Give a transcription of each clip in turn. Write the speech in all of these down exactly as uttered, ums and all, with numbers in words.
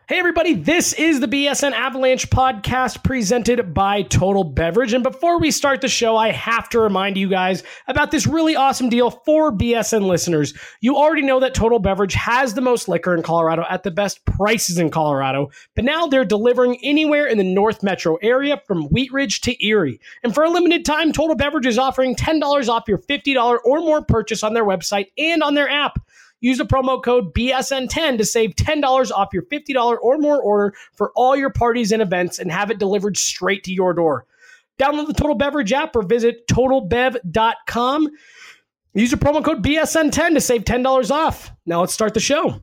Hey everybody, this is the B S N Avalanche podcast presented by Total Beverage. And before we start the show, I have to remind you guys about this really awesome deal for B S N listeners. You already know that Total Beverage has the most liquor in Colorado at the best prices in Colorado, but now they're delivering anywhere in the North Metro area from Wheat Ridge to Erie. And for a limited time, Total Beverage is offering ten dollars off your fifty dollars or more purchase on their website and on their app. Use the promo code B S N ten to save ten dollars off your fifty dollars or more order for all your parties and events and have it delivered straight to your door. Download the Total Beverage app or visit total bev dot com. Use the promo code B S N ten to save ten dollars off. Now let's start the show.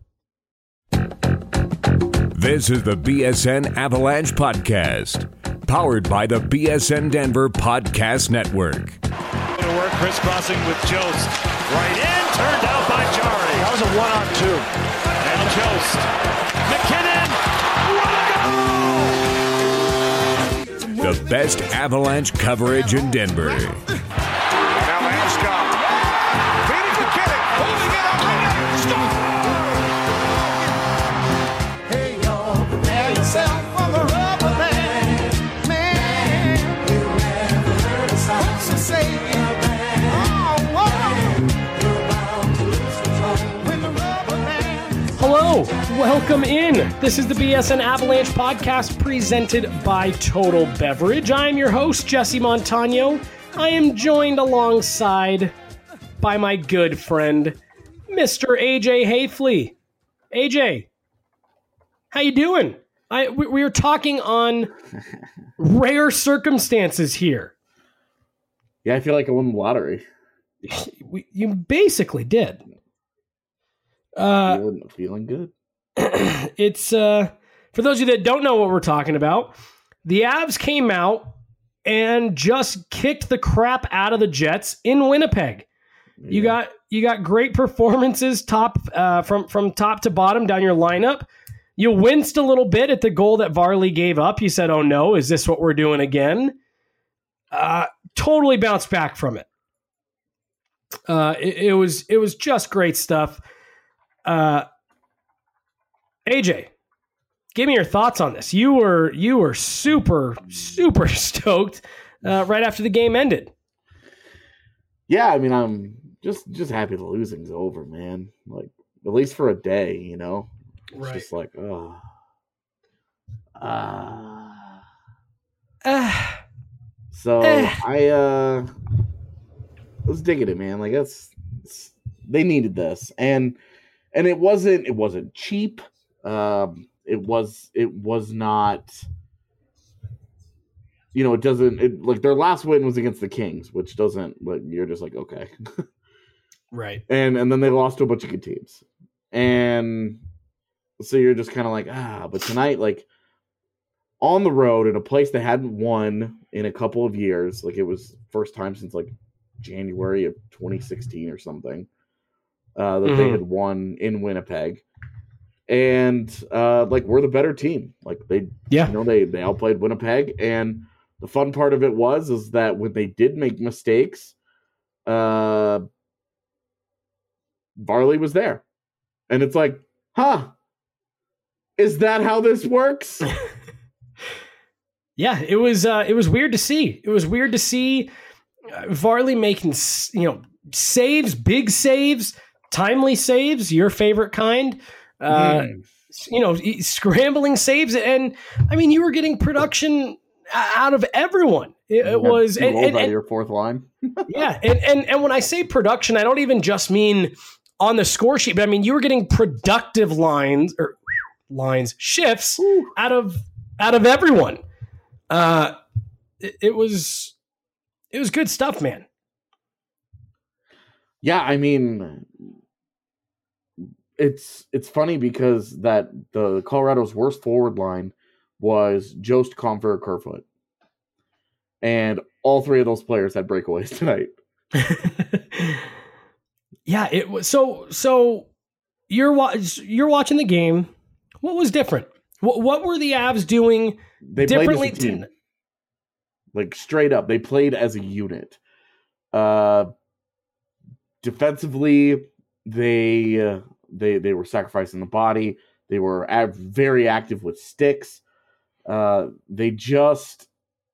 This is the B S N Avalanche podcast, powered by the B S N Denver Podcast Network. To work, crisscrossing with Jost. Right in, turned out by Jari. That was a one-on-two. And Jost. McKinnon. What a goal! The best Avalanche coverage in Denver. Now Landeskog. Feeding McKinnon. Holding it up. And Hey, y'all, prepare yourself for the rubber band. Man, you never heard a song to say it. Hello, welcome in. This is the B S N Avalanche podcast presented by Total Beverage. I am your host, Jesse Montano. I am joined alongside by my good friend, Mister A J Hayfley. A J, how you doing? I we, we were talking on rare circumstances here. Yeah, I feel like I won the lottery. We, you basically did. Uh, feeling, feeling good. It's uh, for those of you that don't know what we're talking about, the Avs came out and just kicked the crap out of the Jets in Winnipeg. Yeah. You got you got great performances top uh, from from top to bottom down your lineup. You winced a little bit at the goal that Varley gave up. You said, "Oh no, is this what we're doing again?" Uh, totally bounced back from it. Uh, it, it was it was just great stuff. Uh, A J, give me your thoughts on this. You were you were super super stoked uh, right after the game ended. Yeah, I mean, I'm just just happy the losing's over, man. Like at least for a day, you know. It's right. Just like oh, ah. Uh, uh, so uh, I uh was digging it, man. Like that's they needed this, and. And it wasn't it wasn't cheap. Um, it was it was not. You know, it doesn't it, like their last win was against the Kings, which doesn't. Like you're just like okay, right. And and then they lost to a bunch of good teams, and so you're just kind of like ah. But tonight, like on the road in a place they hadn't won in a couple of years, like it was first time since like January of twenty sixteen or something. Uh, that mm-hmm. they had won in Winnipeg, and uh, like we're the better team. Like they, yeah, you know, they they outplayed Winnipeg, and the fun part of it was is that when they did make mistakes, uh, Varley was there, and it's like, huh, is that how this works? Yeah, it was uh, it was weird to see. It was weird to see uh, Varley making you know saves, big saves. Timely saves, your favorite kind, uh, mm. you know, scrambling saves. And I mean, you were getting production out of everyone. It, it was and, and, and, and, your fourth line. yeah. And, and, and when I say production, I don't even just mean on the score sheet, but I mean, you were getting productive lines or lines shifts Ooh. out of, out of everyone. Uh, it, it was, it was good stuff, man. Yeah. I mean, It's it's funny because that the Colorado's worst forward line was Jost, Compher, Kerfoot, and all three of those players had breakaways tonight. Yeah, it was so. So you're wa- you're watching the game. What was different? What what were the Avs doing they differently? Played as a team. To... Like straight up, they played as a unit. Uh, defensively, they. Uh, They they were sacrificing the body. They were av- very active with sticks. Uh, they just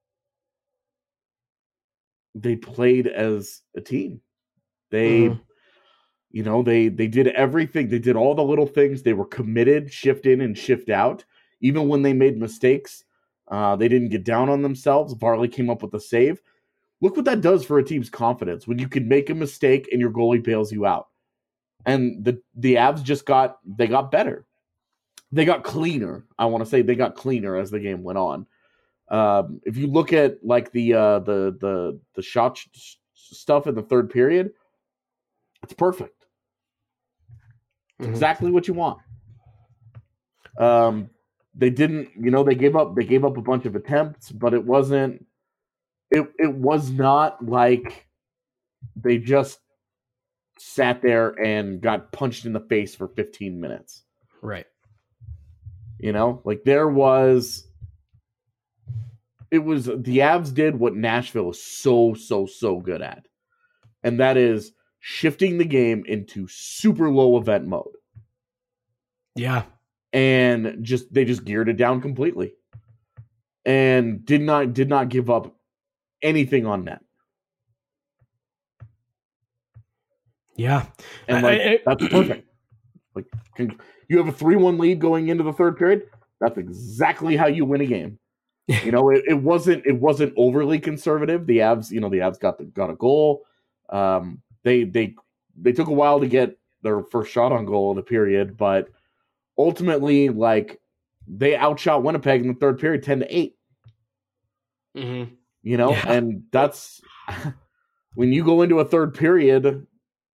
they played as a team. They, mm-hmm. you know, they they did everything. They did all the little things. They were committed, shift in and shift out. Even when they made mistakes, uh, they didn't get down on themselves. Varley came up with a save. Look what that does for a team's confidence when you can make a mistake and your goalie bails you out. And the the Avs just got they got better. They got cleaner. I want to say they got cleaner as the game went on. Um, if you look at like the uh, the the the shot sh- stuff in the third period, it's perfect. It's mm-hmm. exactly what you want. Um, they didn't, you know, they gave up. They gave up a bunch of attempts, but it wasn't. It it was not like they just sat there and got punched in the face for fifteen minutes. Right. You know, like there was, it was, the Avs did what Nashville is so, so, so good at. And that is shifting the game into super low event mode. Yeah. And just, they just geared it down completely. And did not, did not give up anything on net. Yeah. And like, I, I, that's perfect. Like, can, you have a three one lead going into the third period. That's exactly how you win a game. You know, it, it wasn't it wasn't overly conservative. The Avs, you know, the Avs got the, got a goal. Um, they they they took a while to get their first shot on goal in the period, but ultimately, like, they outshot Winnipeg in the third period, ten to eight. Mm-hmm. You know, yeah. and that's when you go into a third period.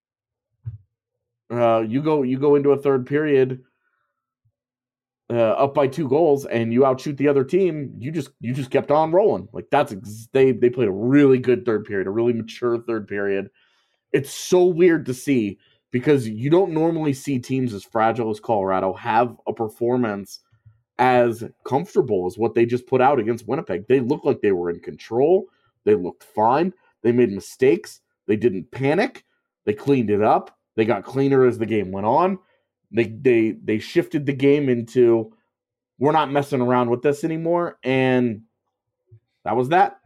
Uh, you go you go into a third period uh, up by two goals, and you outshoot the other team. You just you just kept on rolling. Like that's ex- they they played a really good third period, a really mature third period. It's so weird to see because you don't normally see teams as fragile as Colorado have a performance as comfortable as what they just put out against Winnipeg. They looked like they were in control. They looked fine. They made mistakes. They didn't panic. They cleaned it up. They got cleaner as the game went on. They they they shifted the game into we're not messing around with this anymore, and that was that.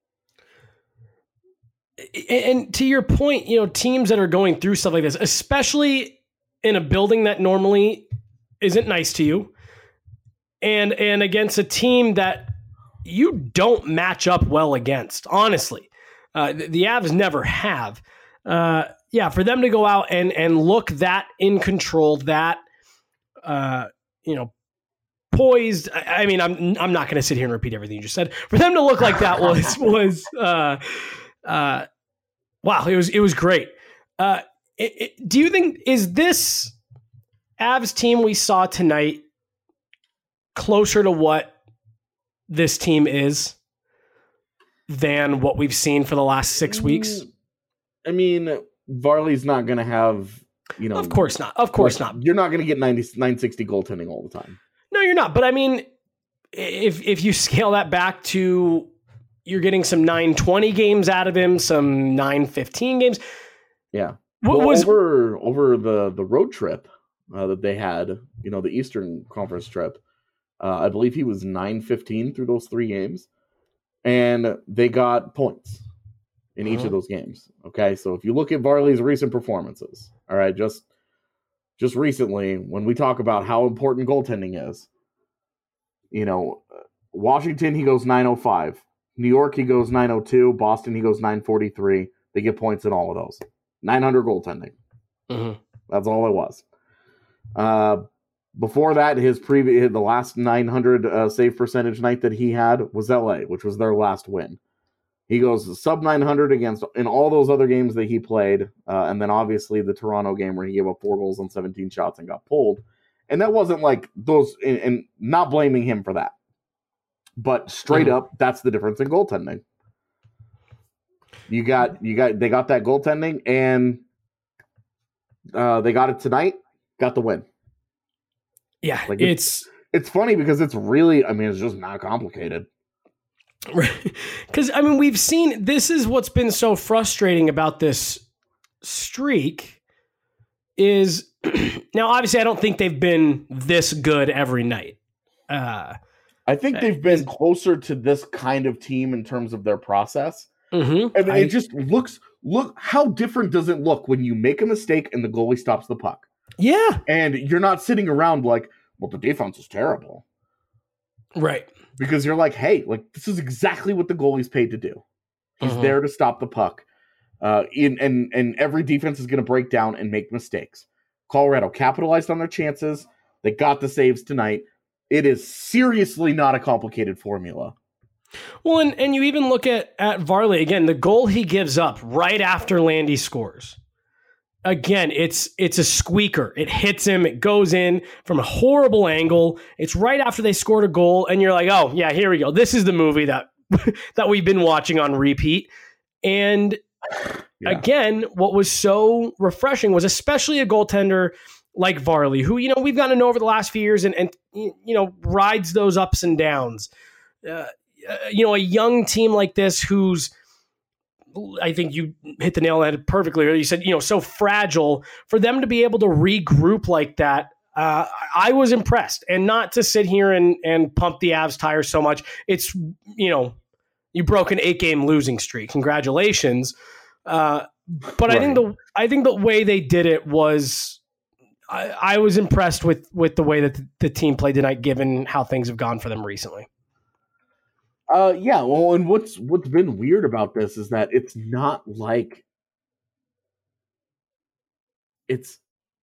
And to your point, you know, teams that are going through stuff like this, especially in a building that normally isn't nice to you, and and against a team that you don't match up well against, honestly. Uh, the, the Avs never have. Uh, yeah, for them to go out and and look that in control, that uh, you know, poised. I, I mean, I'm I'm not going to sit here and repeat everything you just said. For them to look like that was was uh, uh, wow, it was it was great. Uh, it, it, do you think is this Avs team we saw tonight closer to what this team is than what we've seen for the last six weeks? I mean, Varley's not going to have, you know... Of course not. Of course like, not. You're not going to get ninety, nine sixty goaltending all the time. No, you're not. But I mean, if if you scale that back to you're getting some nine twenty games out of him, some nine fifteen games. Yeah. What well, was over, over the, the road trip uh, that they had, you know, the Eastern Conference trip, uh, I believe he was nine fifteen through those three games. And they got points in each uh-huh. of those games. Okay, so if you look at Varley's recent performances, all right, just just recently, when we talk about how important goaltending is, you know, Washington, he goes nine oh five. New York, he goes nine oh two. Boston, he goes nine forty-three. They get points in all of those. nine hundred goaltending. Uh-huh. That's all it was. Uh, before that, his previous, the last nine hundred uh, save percentage night that he had was L A, which was their last win. He goes sub nine hundred against in all those other games that he played, uh, and then obviously the Toronto game where he gave up four goals on seventeen shots and got pulled. And that wasn't like those, and, and not blaming him for that, but straight mm-hmm. up, that's the difference in goaltending. You got, you got, they got that goaltending, and uh, they got it tonight. Got the win. Yeah, like it's, it's it's funny because it's really, I mean, it's just not complicated. Because, I mean, we've seen, this is what's been so frustrating about this streak is now, obviously, I don't think they've been this good every night. Uh, I think they've been closer to this kind of team in terms of their process. Mm-hmm. And I, it just looks, look, how different does it look when you make a mistake and the goalie stops the puck? Yeah. And you're not sitting around like, well, the defense is terrible. Right. Because you're like, hey, like this is exactly what the goalie's paid to do. He's Mm-hmm. there to stop the puck. Uh, in, and, and every defense is going to break down and make mistakes. Colorado capitalized on their chances. They got the saves tonight. It is seriously not a complicated formula. Well, and, and you even look at, at Varley, again, the goal he gives up right after Landy scores. Again, it's it's a squeaker. It hits him. It goes in from a horrible angle. It's right after they scored a goal, and you're like, oh, yeah, here we go. This is the movie that that we've been watching on repeat. And yeah. Again, what was so refreshing was especially a goaltender like Varley, who, you know, we've gotten to know over the last few years and, and you know, rides those ups and downs. Uh, you know, a young team like this who's, I think you hit the nail on it perfectly. You said, you know, so fragile, for them to be able to regroup like that. Uh, I was impressed, and not to sit here and, and pump the Avs tires so much. It's, you know, you broke an eight game losing streak. Congratulations. Uh, but right. I think the, I think the way they did it was, I, I was impressed with, with the way that the, the team played tonight, given how things have gone for them recently. Uh, yeah, well, and what's what's been weird about this is that it's not like it's.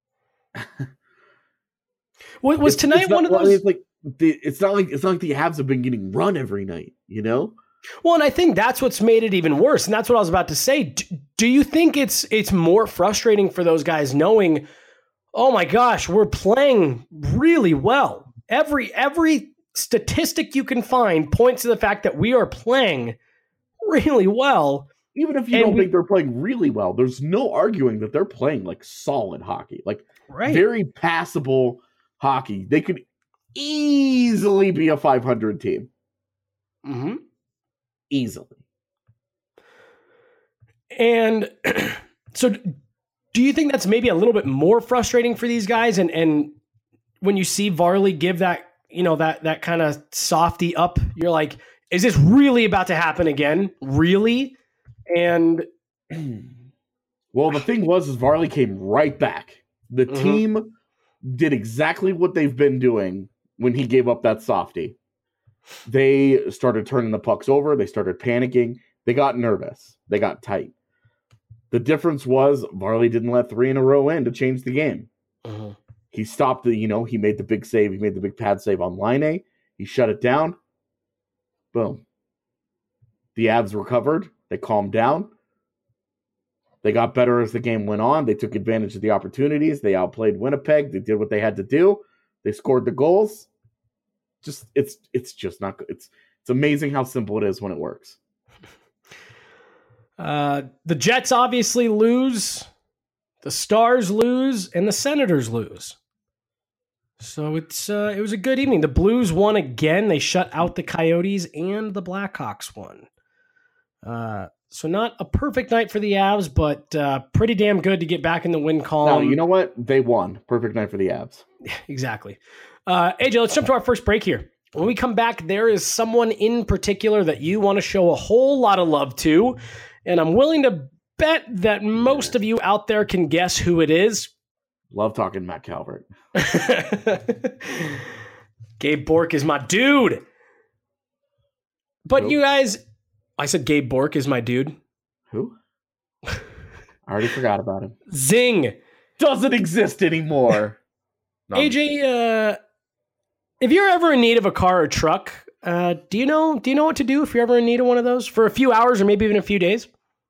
What was it's, tonight it's not, one of those? It's like the, it's not like it's not like the Avs have been getting run every night, you know. Well, and I think that's what's made it even worse, and that's what I was about to say. Do, do you think it's it's more frustrating for those guys knowing, oh my gosh, we're playing really well. Every every. statistic you can find points to the fact that we are playing really well. Even if you don't we, think they're playing really well, there's no arguing that they're playing like solid hockey, like right. very passable hockey. They could easily be a five hundred team. Mm-hmm. Easily. And so do you think that's maybe a little bit more frustrating for these guys? And, and when you see Varley give that, you know, that, that kind of softy up, you're like, is this really about to happen again? Really? And well, the thing was, is Varley came right back. The mm-hmm. team did exactly what they've been doing when he gave up that softy. They started turning the pucks over. They started panicking. They got nervous. They got tight. The difference was Varley didn't let three in a row in to change the game. Mm-hmm. He stopped the, you know, he made the big save. He made the big pad save on line A. He shut it down. Boom. The Avs recovered. They calmed down. They got better as the game went on. They took advantage of the opportunities. They outplayed Winnipeg. They did what they had to do. They scored the goals. Just, it's, it's just not good. It's, it's amazing how simple it is when it works. Uh, the Jets obviously lose. The Stars lose, and the Senators lose. So it's uh, it was a good evening. The Blues won again. They shut out the Coyotes, and the Blackhawks won. Uh, so not a perfect night for the Avs, but uh, pretty damn good to get back in the win column. No, you know what? They won. Perfect night for the Avs. Exactly. Uh, A J, let's jump to our first break here. When we come back, there is someone in particular that you want to show a whole lot of love to, and I'm willing to bet that most of you out there can guess who it is. Love talking Matt Calvert. Gabe Bork is my dude. But nope. You guys, I said Gabe Bork is my dude. Who? I already forgot about him. Zing. Doesn't exist anymore. No. A J, uh, if you're ever in need of a car or truck, uh, do you know do you know what to do if you're ever in need of one of those for a few hours or maybe even a few days?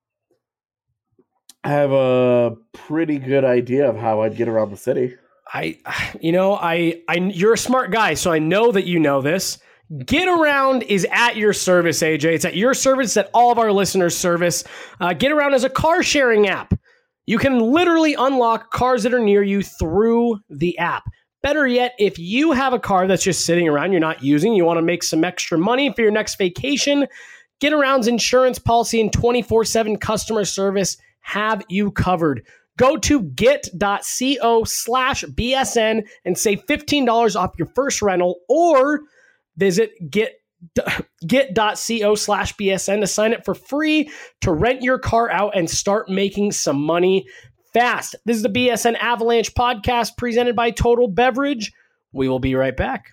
I have a pretty good idea of how I'd get around the city. I, you know, I, I, you're a smart guy, so I know that you know this. Get Around is at your service, A J. It's at your service, it's at all of our listeners' service. Uh, Get Around is a car sharing app. You can literally unlock cars that are near you through the app. Better yet, if you have a car that's just sitting around, you're not using, you want to make some extra money for your next vacation, Get Around's insurance policy and twenty-four seven customer service have you covered. Go to get.co slash BSN and save fifteen dollars off your first rental, or visit get get.co slash BSN to sign up for free to rent your car out and start making some money fast. This is the B S N Avalanche podcast presented by Total Beverage. We will be right back.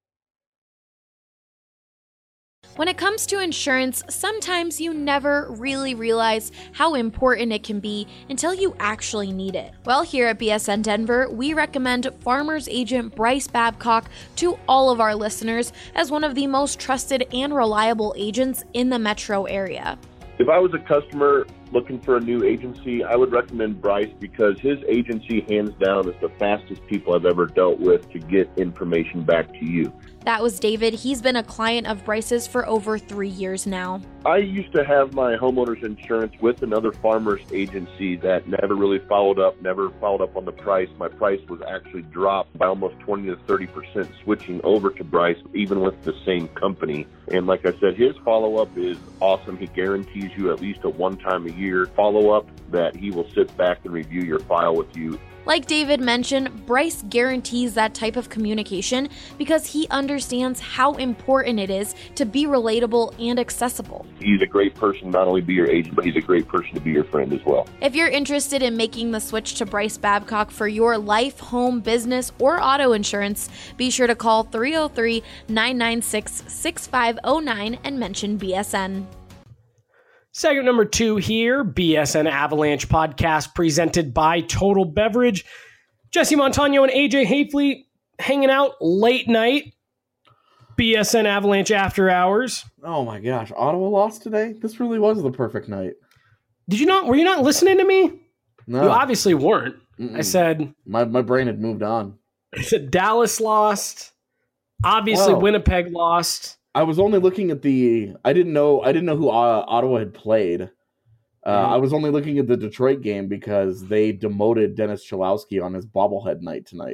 When it comes to insurance, sometimes you never really realize how important it can be until you actually need it. Well, here at B S N Denver, we recommend Farmers Agent Bryce Babcock to all of our listeners as one of the most trusted and reliable agents in the metro area. If I was a customer looking for a new agency, I would recommend Bryce because his agency, hands down, is the fastest people I've ever dealt with to get information back to you. That was David. He's been a client of Bryce's for over three years now. I used to have my homeowner's insurance with another farmer's agency that never really followed up, never followed up on the price. My price was actually dropped by almost twenty to thirty percent switching over to Bryce, even with the same company. And like I said, his follow-up is awesome. He guarantees you at least a one-time a year follow-up that he will sit back and review your file with you. Like David mentioned, Bryce guarantees that type of communication because he understands how important it is to be relatable and accessible. He's a great person, not only be your agent, but he's a great person to be your friend as well. If you're interested in making the switch to Bryce Babcock for your life, home, business, or auto insurance, be sure to call three oh three, nine nine six, six five oh nine and mention B S N. Segment number two here, B S N Avalanche podcast presented by Total Beverage. Jesse Montano and A J Hafley hanging out late night. B S N Avalanche after hours. Oh my gosh, Ottawa lost today? This really was the perfect night. Did you not, were you not listening to me? No. You obviously weren't. Mm-mm. I said, My my brain had moved on. I said Dallas lost. Obviously Oh. Winnipeg lost. I was only looking at the. I didn't know. I didn't know who uh, Ottawa had played. Uh, Mhm. I was only looking at the Detroit game because they demoted Dennis Cholowski on his bobblehead night tonight.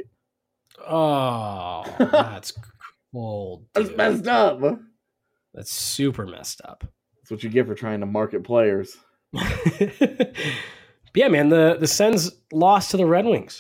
Oh, that's cold. That's dude. messed up. That's That's super messed up. what you get for trying to market players. Yeah, man, the, the Sens lost to the Red Wings.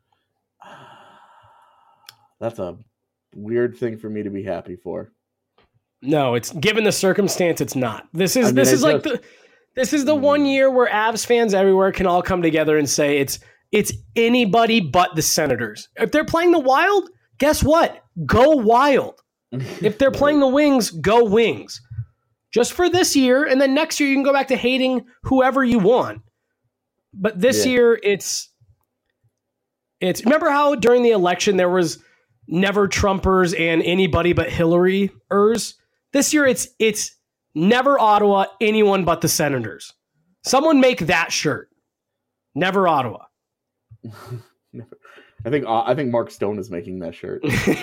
That's a weird thing for me to be happy for. No, it's given the circumstance, it's not. This is I mean, this I is like just- the this is the one year where Avs fans everywhere can all come together and say it's it's anybody but the Senators. If they're playing the Wild, guess what? Go Wild. If they're playing the Wings, go Wings. Just for this year, and then next year you can go back to hating whoever you want. But this Yeah. year, it's it's. Remember how during the election there was never Trumpers and anybody but Hillary-ers? This year, it's it's never Ottawa, anyone but the Senators. Someone make that shirt. Never Ottawa. I think uh, I think Mark Stone is making that shirt.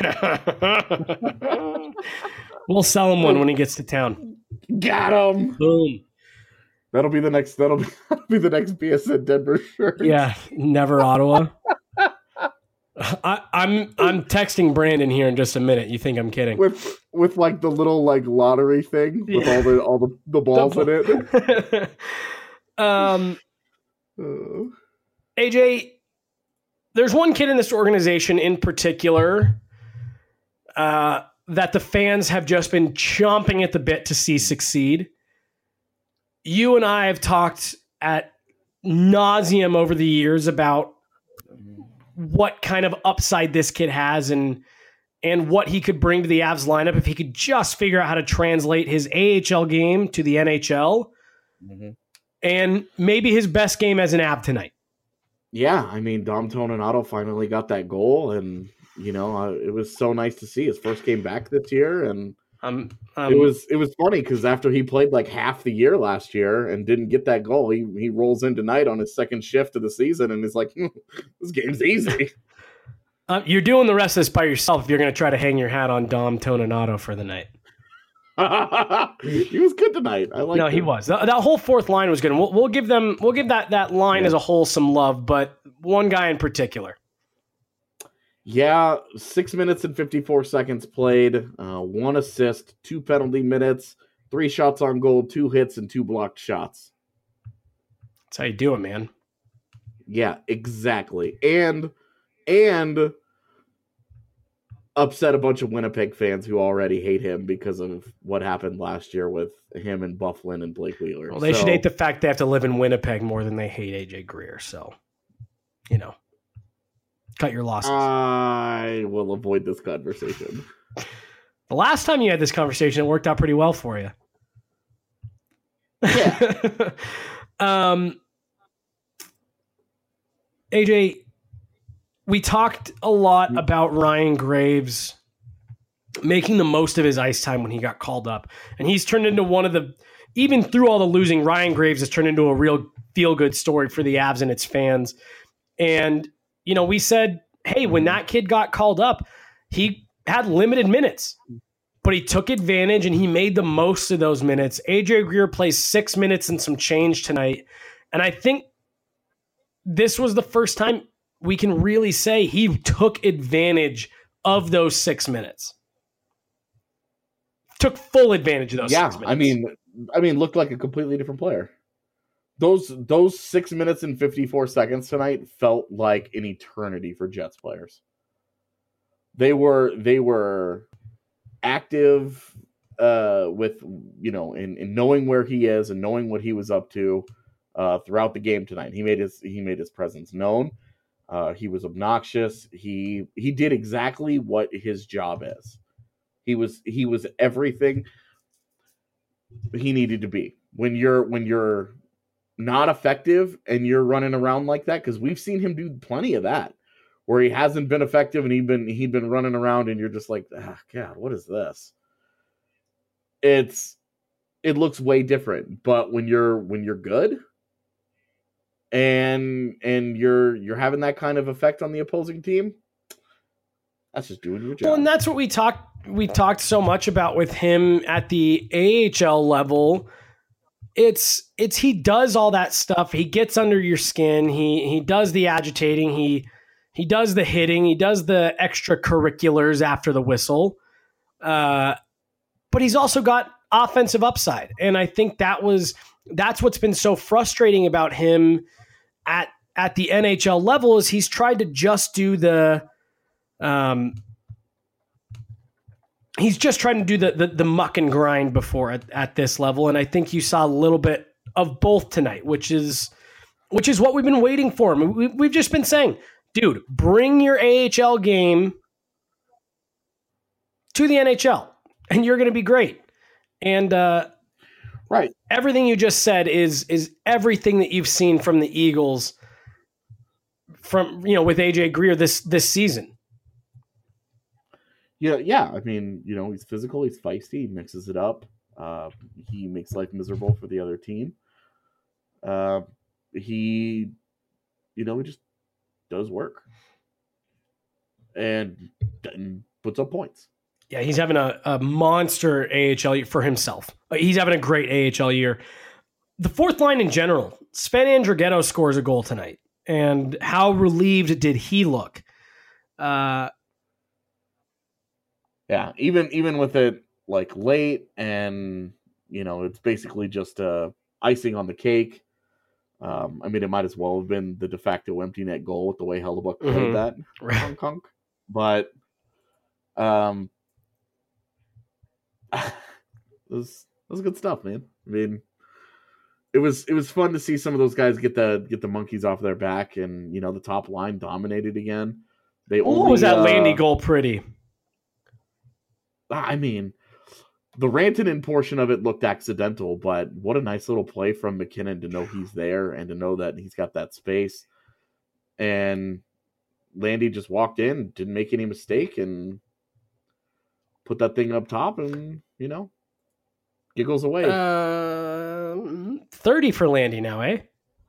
We'll sell him one when he gets to town. Got him. Boom. That'll be the next. That'll be, that'll be the next B S N Denver shirt. Yeah, never Ottawa. I, I'm I'm texting Brandon here in just a minute. You think I'm kidding? with with like the little like lottery thing with Yeah. all the all the, the balls in it. um, Uh, A J, there's one kid in this organization in particular uh, that the fans have just been chomping at the bit to see succeed. You and I have talked at nauseum over the years about what kind of upside this kid has and and what he could bring to the Avs lineup if he could just figure out how to translate his A H L game to the N H L. Mm-hmm. And maybe his best game as an Av tonight. yeah, I mean, Dom Toninato finally got that goal, and you know, uh, it was so nice to see his first game back this year, and Um, um, it was it was funny because after he played like half the year last year and didn't get that goal, he he rolls in tonight on his second shift of the season and is like, hmm, this game's easy. uh, you're doing the rest of this by yourself if you're going to try to hang your hat on Dom Toninato for the night. He was good tonight. I like. No, he was. That, that whole fourth line was good. We'll, we'll give them. We'll give that that line Yeah. as a whole some love, but one guy in particular. Yeah, six minutes and fifty-four seconds played, uh, one assist, two penalty minutes, three shots on goal, two hits, and two blocked shots. That's how you do it, man. Yeah, exactly. And and upset a bunch of Winnipeg fans who already hate him because of what happened last year with him and Bufflin and Blake Wheeler. Well, they so, should hate the fact they have to live in Winnipeg more than they hate A J Greer. So, you know, cut your losses. I will avoid this conversation. The last time you had this conversation, it worked out pretty well for you. Yeah. um, A J, we talked a lot about Ryan Graves making the most of his ice time when he got called up. And he's turned into one of the, even through all the losing, Ryan Graves has turned into a real feel-good story for the Avs and its fans. And, you know, we said, hey, when that kid got called up, he had limited minutes, but he took advantage and he made the most of those minutes. A J Greer plays six minutes and some change tonight. And I think this was the first time we can really say he took advantage of those six minutes. Took full advantage of those yeah, six minutes. I mean, I mean, looked like a completely different player. Those those six minutes and fifty-four seconds tonight felt like an eternity for Jets players. They were they were active uh, with, you know, in, in knowing where he is and knowing what he was up to uh, throughout the game tonight. He made his he made his presence known. Uh, he was obnoxious. He he did exactly what his job is. He was he was everything he needed to be. When you're when you're not effective and you're running around like that, because we've seen him do plenty of that, where he hasn't been effective and he'd been he'd been running around and you're just like, ah, God, what is this? It's it looks way different. But when you're when you're good, and and you're you're having that kind of effect on the opposing team, that's just doing your job. Well, and that's what we talked we talked so much about with him at the A H L level. It's it's he does all that stuff. He gets under your skin. He he does the agitating. He he does the hitting. He does the extracurriculars after the whistle. Uh, but he's also got offensive upside, and I think that was that's what's been so frustrating about him at at the N H L level is he's tried to just do the um he's just trying to do the the, the muck and grind before at, at this level, and I think you saw a little bit of both tonight, which is which is what we've been waiting for. We, we've just been saying, dude, bring your A H L game to the N H L, and you're going to be great. And uh, right, everything you just said is is everything that you've seen from the Eagles from you know with A J Greer this this season. Yeah, yeah. I mean, you know, he's physical, he's feisty, he mixes it up. Uh, he makes life miserable for the other team. Uh, he, you know, he just does work and, and puts up points. Yeah, he's having a, a monster A H L year for himself. He's having a great A H L year. The fourth line in general, Sven Andrighetto scores a goal tonight. And how relieved did he look? Uh, yeah, even even with it like late and, you know, it's basically just uh, icing on the cake. Um, I mean, it might as well have been the de facto empty net goal with the way Hellebuyck played mm-hmm. that. Hong Kong. But um, it was it was good stuff, man. I mean, it was it was fun to see some of those guys get the get the monkeys off their back, and you know the top line dominated again. They Ooh, only was that uh, Landy goal pretty? I mean, the Rantanen portion of it looked accidental, but what a nice little play from McKinnon to know he's there and to know that he's got that space. And Landy just walked in, didn't make any mistake, and put that thing up top, and you know, giggles away. Uh, thirty for Landy now, eh?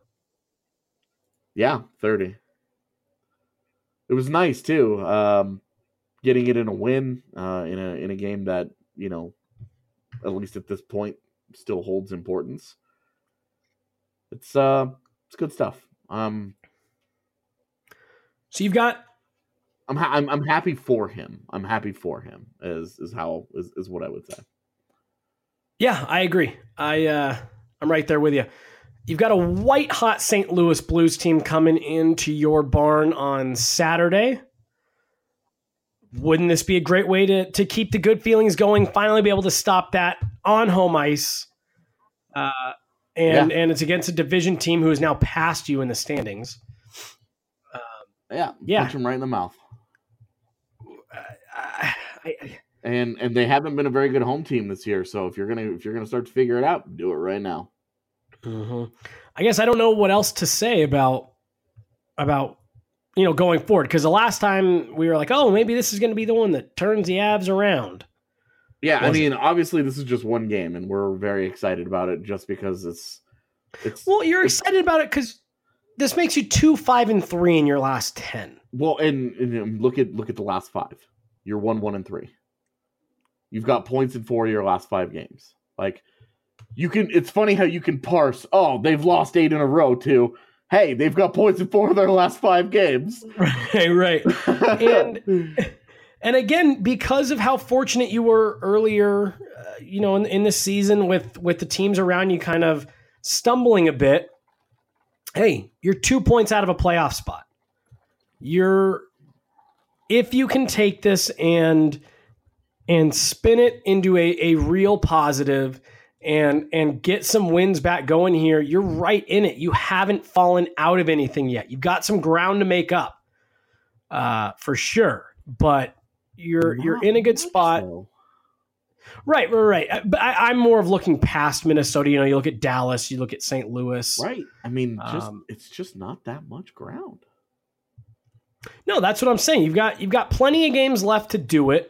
Yeah, thirty. It was nice too, um, getting it in a win uh, in a in a game that you know, at least at this point, still holds importance. It's uh, it's good stuff. Um, so you've got. I'm ha- I'm I'm happy for him. I'm happy for him. Is is how is, is what I would say. Yeah, I agree. I uh, I'm right there with you. You've got a white-hot Saint Louis Blues team coming into your barn on Saturday. Wouldn't this be a great way to, to keep the good feelings going, finally be able to stop that on home ice? Uh, and yeah. and it's against a division team who is now past you in the standings. Um, yeah, yeah. Punch them right in the mouth. Uh, I, I, and and they haven't been a very good home team this year, so if you're gonna if you're gonna start to figure it out, do it right now. Mm-hmm. I guess I don't know what else to say about about you know going forward, because the last time we were like, oh, maybe this is going to be the one that turns the Avs around. Yeah, I mean, obviously this is just one game, and we're very excited about it just because it's it's. Well, you're it's, excited about it because this makes you two, five, and three in your last ten. Well, and, and look at look at the last five. You're one, one, and three. You've got points in four of your last five games. Like. You can. It's funny how you can parse. Oh, they've lost eight in a row. To hey, they've got points in four of their last five games. Right, right. and and again, because of how fortunate you were earlier, uh, you know, in, in this season with with the teams around you kind of stumbling a bit. Hey, you're two points out of a playoff spot. You're if you can take this and and spin it into a, a real positive. And and get some wins back going here, you're right in it. You haven't fallen out of anything yet. You've got some ground to make up, uh, for sure. But you're Not you're in a good spot. So. Right, right, right. But I, I'm more of looking past Minnesota. You know, you look at Dallas, you look at Saint Louis. Right. I mean, just um, it's just not that much ground. No, that's what I'm saying. You've got you've got plenty of games left to do it.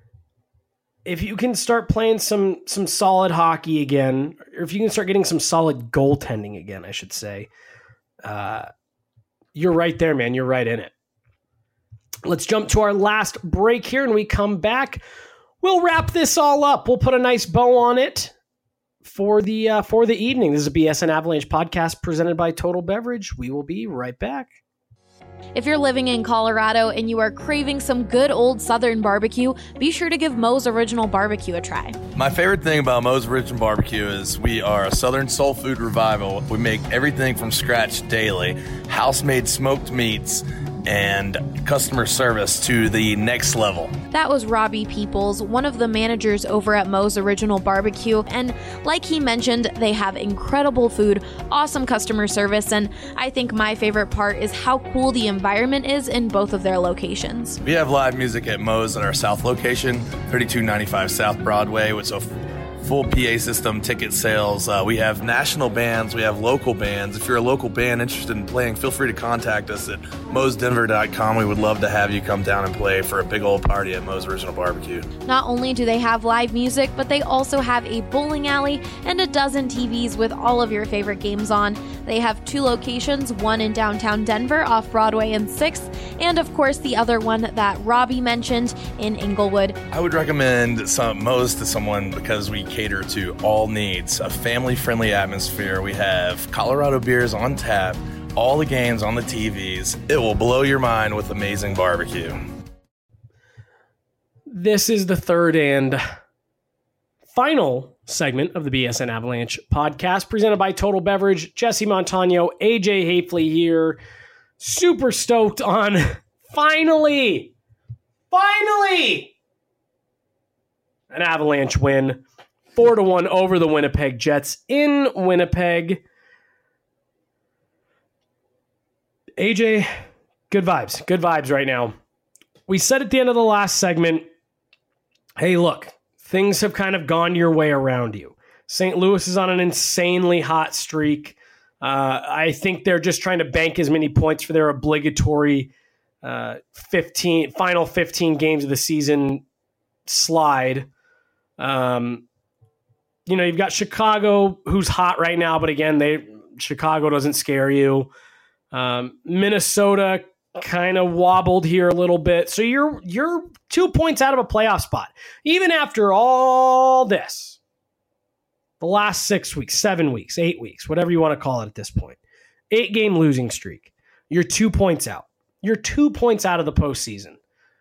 If you can start playing some some solid hockey again, or if you can start getting some solid goaltending again, I should say, uh, you're right there, man. You're right in it. Let's jump to our last break here, and we come back. We'll wrap this all up. We'll put a nice bow on it for the uh, for the evening. This is a B S N Avalanche podcast presented by Total Beverage. We will be right back. If you're living in Colorado and you are craving some good old Southern barbecue, be sure to give Moe's Original Barbecue a try. My favorite thing about Moe's Original Barbecue is we are a Southern soul food revival. We make everything from scratch daily, house-made smoked meats, and customer service to the next level. That was Robbie Peoples, one of the managers over at Moe's Original Barbecue, and like he mentioned, they have incredible food, awesome customer service, and I think my favorite part is how cool the environment is in both of their locations. We have live music at Moe's at our South location, thirty-two ninety-five South Broadway, with a full P A system, ticket sales. Uh, we have national bands. We have local bands. If you're a local band interested in playing, feel free to contact us at moes denver dot com. We would love to have you come down and play for a big old party at Moe's Original Barbecue. Not only do they have live music, but they also have a bowling alley and a dozen T Vs with all of your favorite games on. They have two locations, one in downtown Denver off Broadway and sixth, and of course the other one that Robbie mentioned in Inglewood. I would recommend some Moe's to someone because we cater to all needs, a family-friendly atmosphere. We have Colorado beers on tap, all the games on the T Vs. It will blow your mind with amazing barbecue. This is the third and final segment of the B S N Avalanche podcast presented by Total Beverage. Jesse Montano, A J Hafley here. Super stoked on finally, finally, an Avalanche win. Four to one over the Winnipeg Jets in Winnipeg. A J, good vibes. Good vibes right now. We said at the end of the last segment, hey, look, things have kind of gone your way around you. Saint Louis is on an insanely hot streak. Uh, I think they're just trying to bank as many points for their obligatory uh, fifteen final fifteen games of the season slide. Um, you know, you've got Chicago, who's hot right now, but again, they Chicago doesn't scare you. Um, Minnesota kind of wobbled here a little bit, so you're you're two points out of a playoff spot, even after all this. The last six weeks, seven weeks, eight weeks, whatever you want to call it at this point, eight game losing streak. You're two points out. You're two points out of the postseason.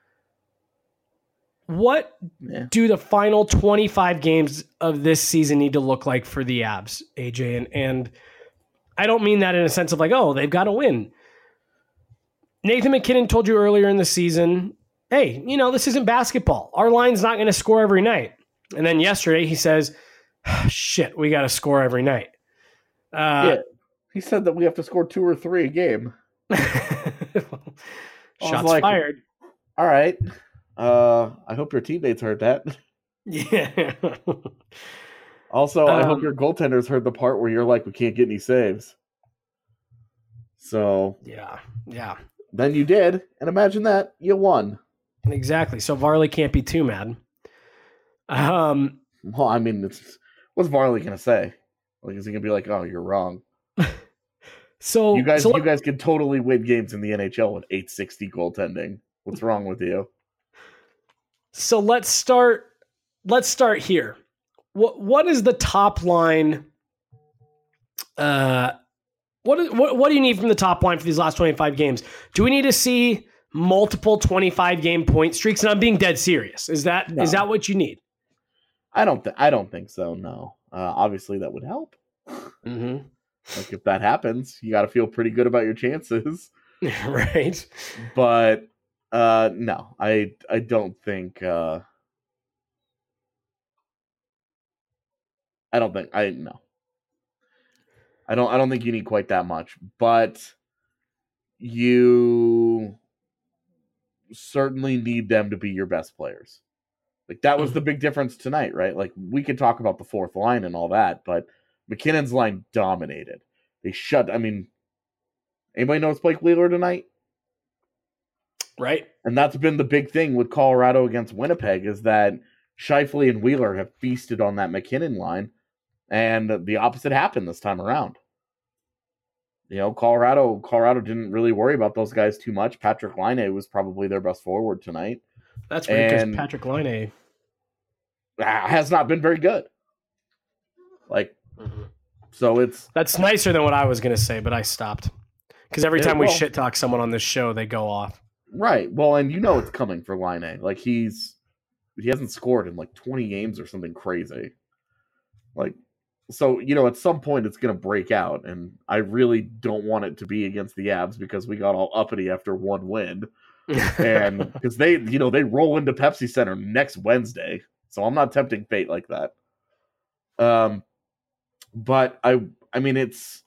What yeah. do the final twenty-five games of this season need to look like for the Avs, A J? And, and I don't mean that in a sense of like, oh, they've got to win. Nathan MacKinnon told you earlier in the season, hey, you know, this isn't basketball. Our line's not going to score every night. And then yesterday he says, shit, we got to score every night. Uh, yeah, he said that we have to score two or three a game. Shots like, fired. All right. Uh, I hope your teammates heard that. Yeah. Also, I um, hope your goaltenders heard the part where you're like, we can't get any saves. So yeah, yeah. Then you did, and imagine that you won. Exactly. So Varley can't be too mad. Um. Well, I mean, it's, what's Varley gonna say? Like, is he gonna be like, "Oh, you're wrong"? So you guys, so you guys can totally win games in the N H L with eight sixty goaltending. What's wrong with you? So let's start. Let's start here. What what is the top line? Uh, what is, what what do you need from the top line for these last twenty-five games? Do we need to see multiple twenty-five game point streaks? And I'm being dead serious. Is that No. is that what you need? I don't. Th- I don't think so. No. Uh, obviously, that would help. Mm-hmm. Like, if that happens, you got to feel pretty good about your chances. Right. But uh, no, I I don't think. Uh, I don't think I no. I don't. I don't think you need quite that much, but you certainly need them to be your best players. Like, that was the big difference tonight, right? Like, we could talk about the fourth line and all that, but McKinnon's line dominated. They shut. I mean, anybody knows Blake Wheeler tonight? Right. And that's been the big thing with Colorado against Winnipeg, is that Scheifele and Wheeler have feasted on that McKinnon line, and the opposite happened this time around. You know, Colorado Colorado didn't really worry about those guys too much. Patrick Laine was probably their best forward tonight. That's right, because And- Patrick Laine. Has not been very good. Like, so it's That's nicer than what I was going to say, but I stopped. Because every Yeah, time we well- shit talk someone on this show, they go off. right. Well, and you know it's coming for Laine. Like, he's he hasn't scored in like twenty games or something crazy. Like, so, you know, at some point it's going to break out, and I really don't want it to be against the Avs because we got all uppity after one win. And because they, you know, they roll into Pepsi Center next Wednesday. So I'm not tempting fate like that. Um, but I, I mean, it's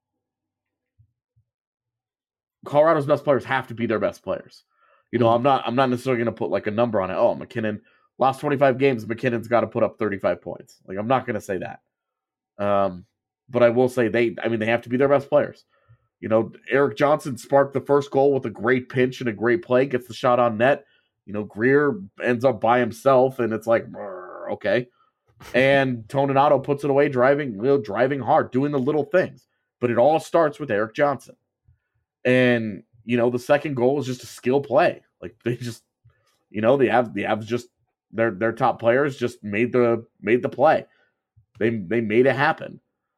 Colorado's best players have to be their best players. You know, I'm not, I'm not necessarily going to put like a number on it. Oh, McKinnon, last twenty-five games, McKinnon's got to put up thirty-five points. Like, I'm not going to say that. Um, but I will say they, I mean, they have to be their best players. You know, Eric Johnson sparked the first goal with a great pinch and a great play, gets the shot on net. You know, Greer ends up by himself, and it's like, okay. And Toninato puts it away, driving, you know, driving hard, doing the little things. But it all starts with Eric Johnson. And, you know, the second goal is just a skill play. Like, they just, you know, the Avs, the Avs just, their their top players just made the made the play. They they made it happen.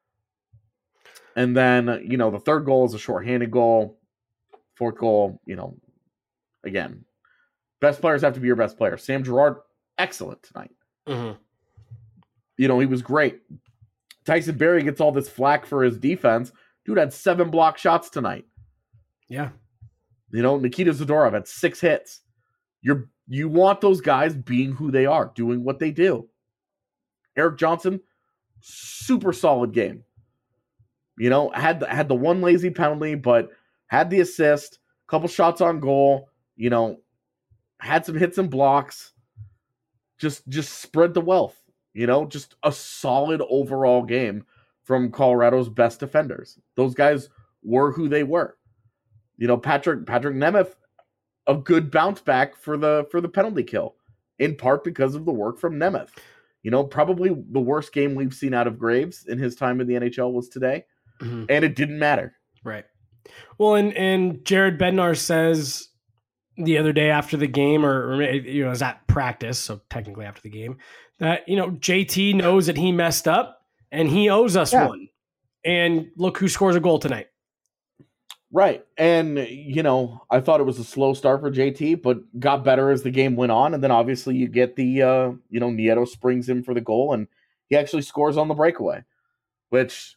And then, you know, the third goal is a shorthanded goal. Fourth goal, you know, again, best players have to be your best player. Sam Girard, excellent tonight. Mm-hmm. You know, he was great. Tyson Barrie gets all this flack for his defense. Dude had seven block shots tonight. Yeah. You know, Nikita Zadorov had six hits. You're you want those guys being who they are, doing what they do. Eric Johnson, super solid game. You know, had the, had the one lazy penalty, but had the assist, couple shots on goal. You know, had some hits and blocks. Just just spread the wealth. You know, just a solid overall game from Colorado's best defenders. Those guys were who they were. You know, Patrick Patrick Nemeth, a good bounce back for the for the penalty kill, in part because of the work from Nemeth. You know, probably the worst game we've seen out of Graves in his time in the N H L was today, Mm-hmm. and it didn't matter. Right. Well, and and Jared Bednar says the other day after the game, or, or you know, it was at practice, so technically after the game, that, you know, J T knows that he messed up and he owes us Yeah. one. And look who scores a goal tonight. Right. And, you know, I thought it was a slow start for J T, but got better as the game went on. And then obviously you get the, uh, you know, Nieto springs him for the goal, and he actually scores on the breakaway, which,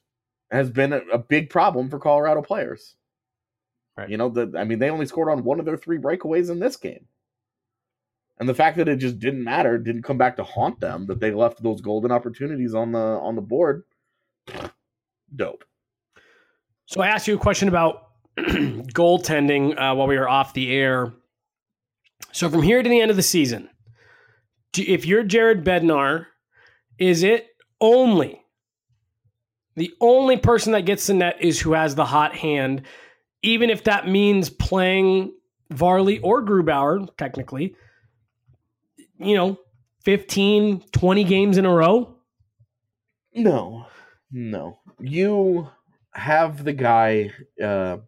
has been a, a big problem for Colorado players. Right. You know, the, I mean, they only scored on one of their three breakaways in this game. And the fact that it just didn't matter, didn't come back to haunt them, that they left those golden opportunities on the on the board, dope. So I asked you a question about goaltending uh, while we were off the air. So from here to the end of the season, do, if you're Jared Bednar, is it only the only person that gets the net is who has the hot hand, even if that means playing Varley or Grubauer, technically, you know, fifteen, twenty games in a row? No, no. You have the guy, uh,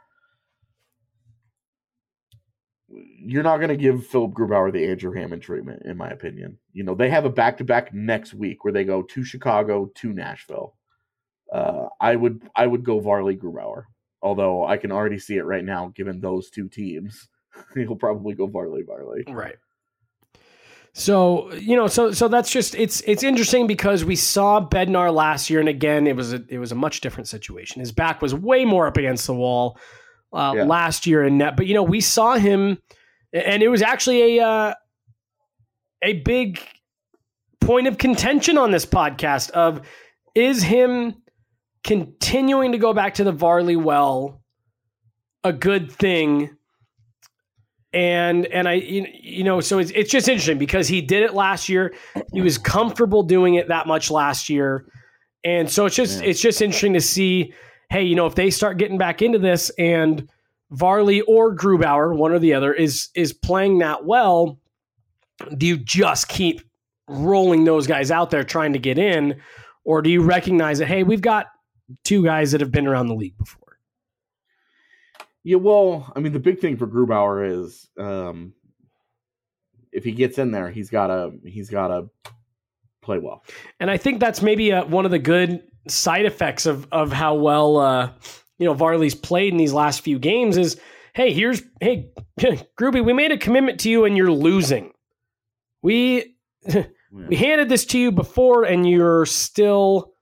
you're not going to give Philip Grubauer the Andrew Hammond treatment, in my opinion. You know, they have a back-to-back next week where they go to Chicago, to Nashville. Uh, I would I would go Varley Grubauer, although I can already see it right now, given those two teams. He'll probably go Varley Varley. Right. So, you know, so so that's just it's it's interesting because we saw Bednar last year, and again, it was a it was a much different situation. His back was way more up against the wall uh, Yeah. last year in net, but you know, we saw him, and it was actually a uh, a big point of contention on this podcast of is him continuing to go back to the Varley well a good thing. And and I you you know so it's it's just interesting because he did it last year. He was comfortable doing it that much last year, and so it's just Yeah. it's just interesting to see. Hey, you know, if they start getting back into this, and Varley or Grubauer, one or the other, is is playing that well, do you just keep rolling those guys out there trying to get in, or do you recognize that hey, we've got two guys that have been around the league before? Yeah, well, I mean, the big thing for Grubauer is um, if he gets in there, he's gotta he's gotta play well. And I think that's maybe uh one of the good side effects of of how well uh, you know Varley's played in these last few games is, hey, here's hey Gruby, we made a commitment to you and you're losing. We we handed this to you before and you're still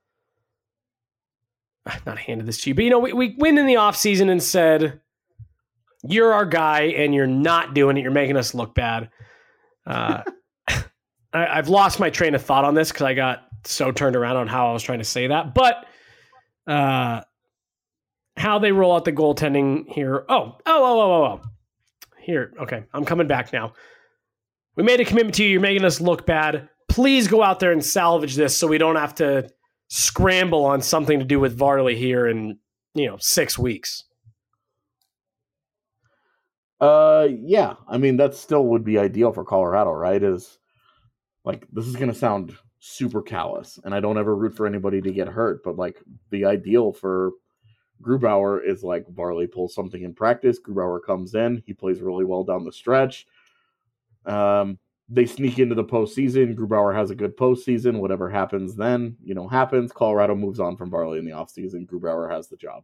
not handed this to you, but you know we we went in the offseason and said you're our guy and you're not doing it. You're making us look bad. Uh, I, I've lost my train of thought on this because I got so turned around on how I was trying to say that. But uh, how they roll out the goaltending here. Oh, oh, oh, oh, oh, oh. Here. Okay. I'm coming back now. We made a commitment to you. You're making us look bad. Please go out there and salvage this so we don't have to scramble on something to do with Varley here in, you know, six weeks. Uh, yeah, I mean that still would be ideal for Colorado, right? Is like this is gonna sound super callous, and I don't ever root for anybody to get hurt, but like the ideal for Grubauer is like Varley pulls something in practice, Grubauer comes in, he plays really well down the stretch. Um, they sneak into the postseason. Grubauer has a good postseason. Whatever happens then, you know, happens. Colorado moves on from Varley in the offseason. Grubauer has the job.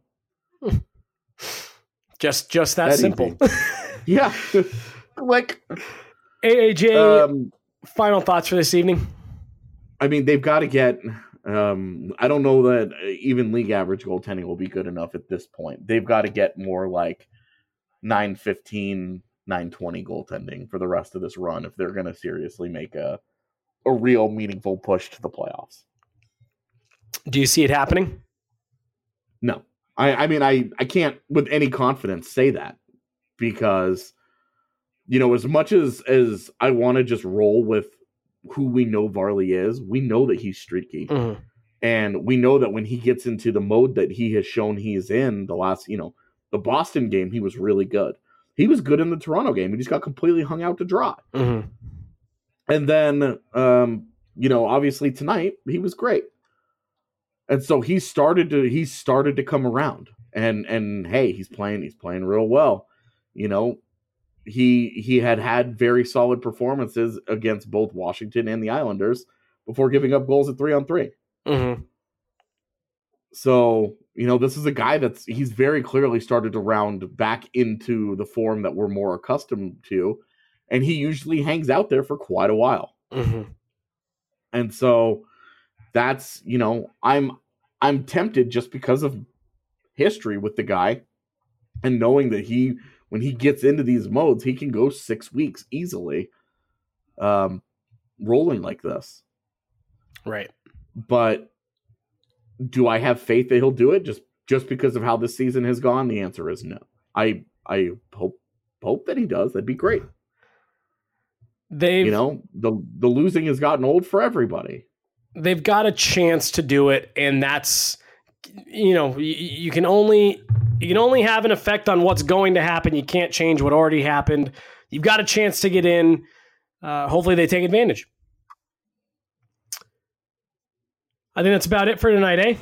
Just, just that, That simple. Yeah, like A A J, um, final thoughts for this evening? I mean, they've got to get. Um, I don't know that even league average goaltending will be good enough at this point. They've got to get more like nine fifteen, nine twenty goaltending for the rest of this run if they're going to seriously make a a real meaningful push to the playoffs. Do you see it happening? No, I, I mean, I, I can't with any confidence say that because, you know, as much as as I want to just roll with who we know Varley is, we know that he's streaky. Mm-hmm. And we know that when he gets into the mode that he has shown he is in the last, you know, the Boston game, he was really good. He was good in the Toronto game. He just got completely hung out to dry. Mm-hmm. And then, um, you know, obviously tonight he was great. And so he started to, he started to come around and, and hey, he's playing, he's playing real well. You know, he, he had had very solid performances against both Washington and the Islanders before giving up goals at three on three. Mm-hmm. So, you know, this is a guy that's, he's very clearly started to round back into the form that we're more accustomed to. And he usually hangs out there for quite a while. Mm-hmm. And so that's, you know, I'm, I'm tempted just because of history with the guy and knowing that he, when he gets into these modes, he can go six weeks easily, um, rolling like this. Right. But do I have faith that he'll do it just, just because of how this season has gone? The answer is no. I, I hope, hope that he does. That'd be great. They've, you know, the, the losing has gotten old for everybody. They've got a chance to do it. And that's, you know, you, you can only, you can only have an effect on what's going to happen. You can't change what already happened. You've got a chance to get in. Uh, hopefully they take advantage. I think that's about it for tonight, eh?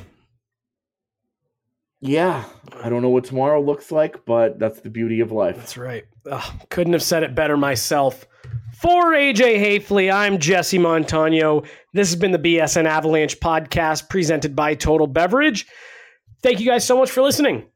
Yeah. I don't know what tomorrow looks like, but that's the beauty of life. That's right. Ugh, couldn't have said it better myself. For A J Hafley, I'm Jesse Montano. This has been the B S N Avalanche podcast presented by Total Beverage. Thank you guys so much for listening.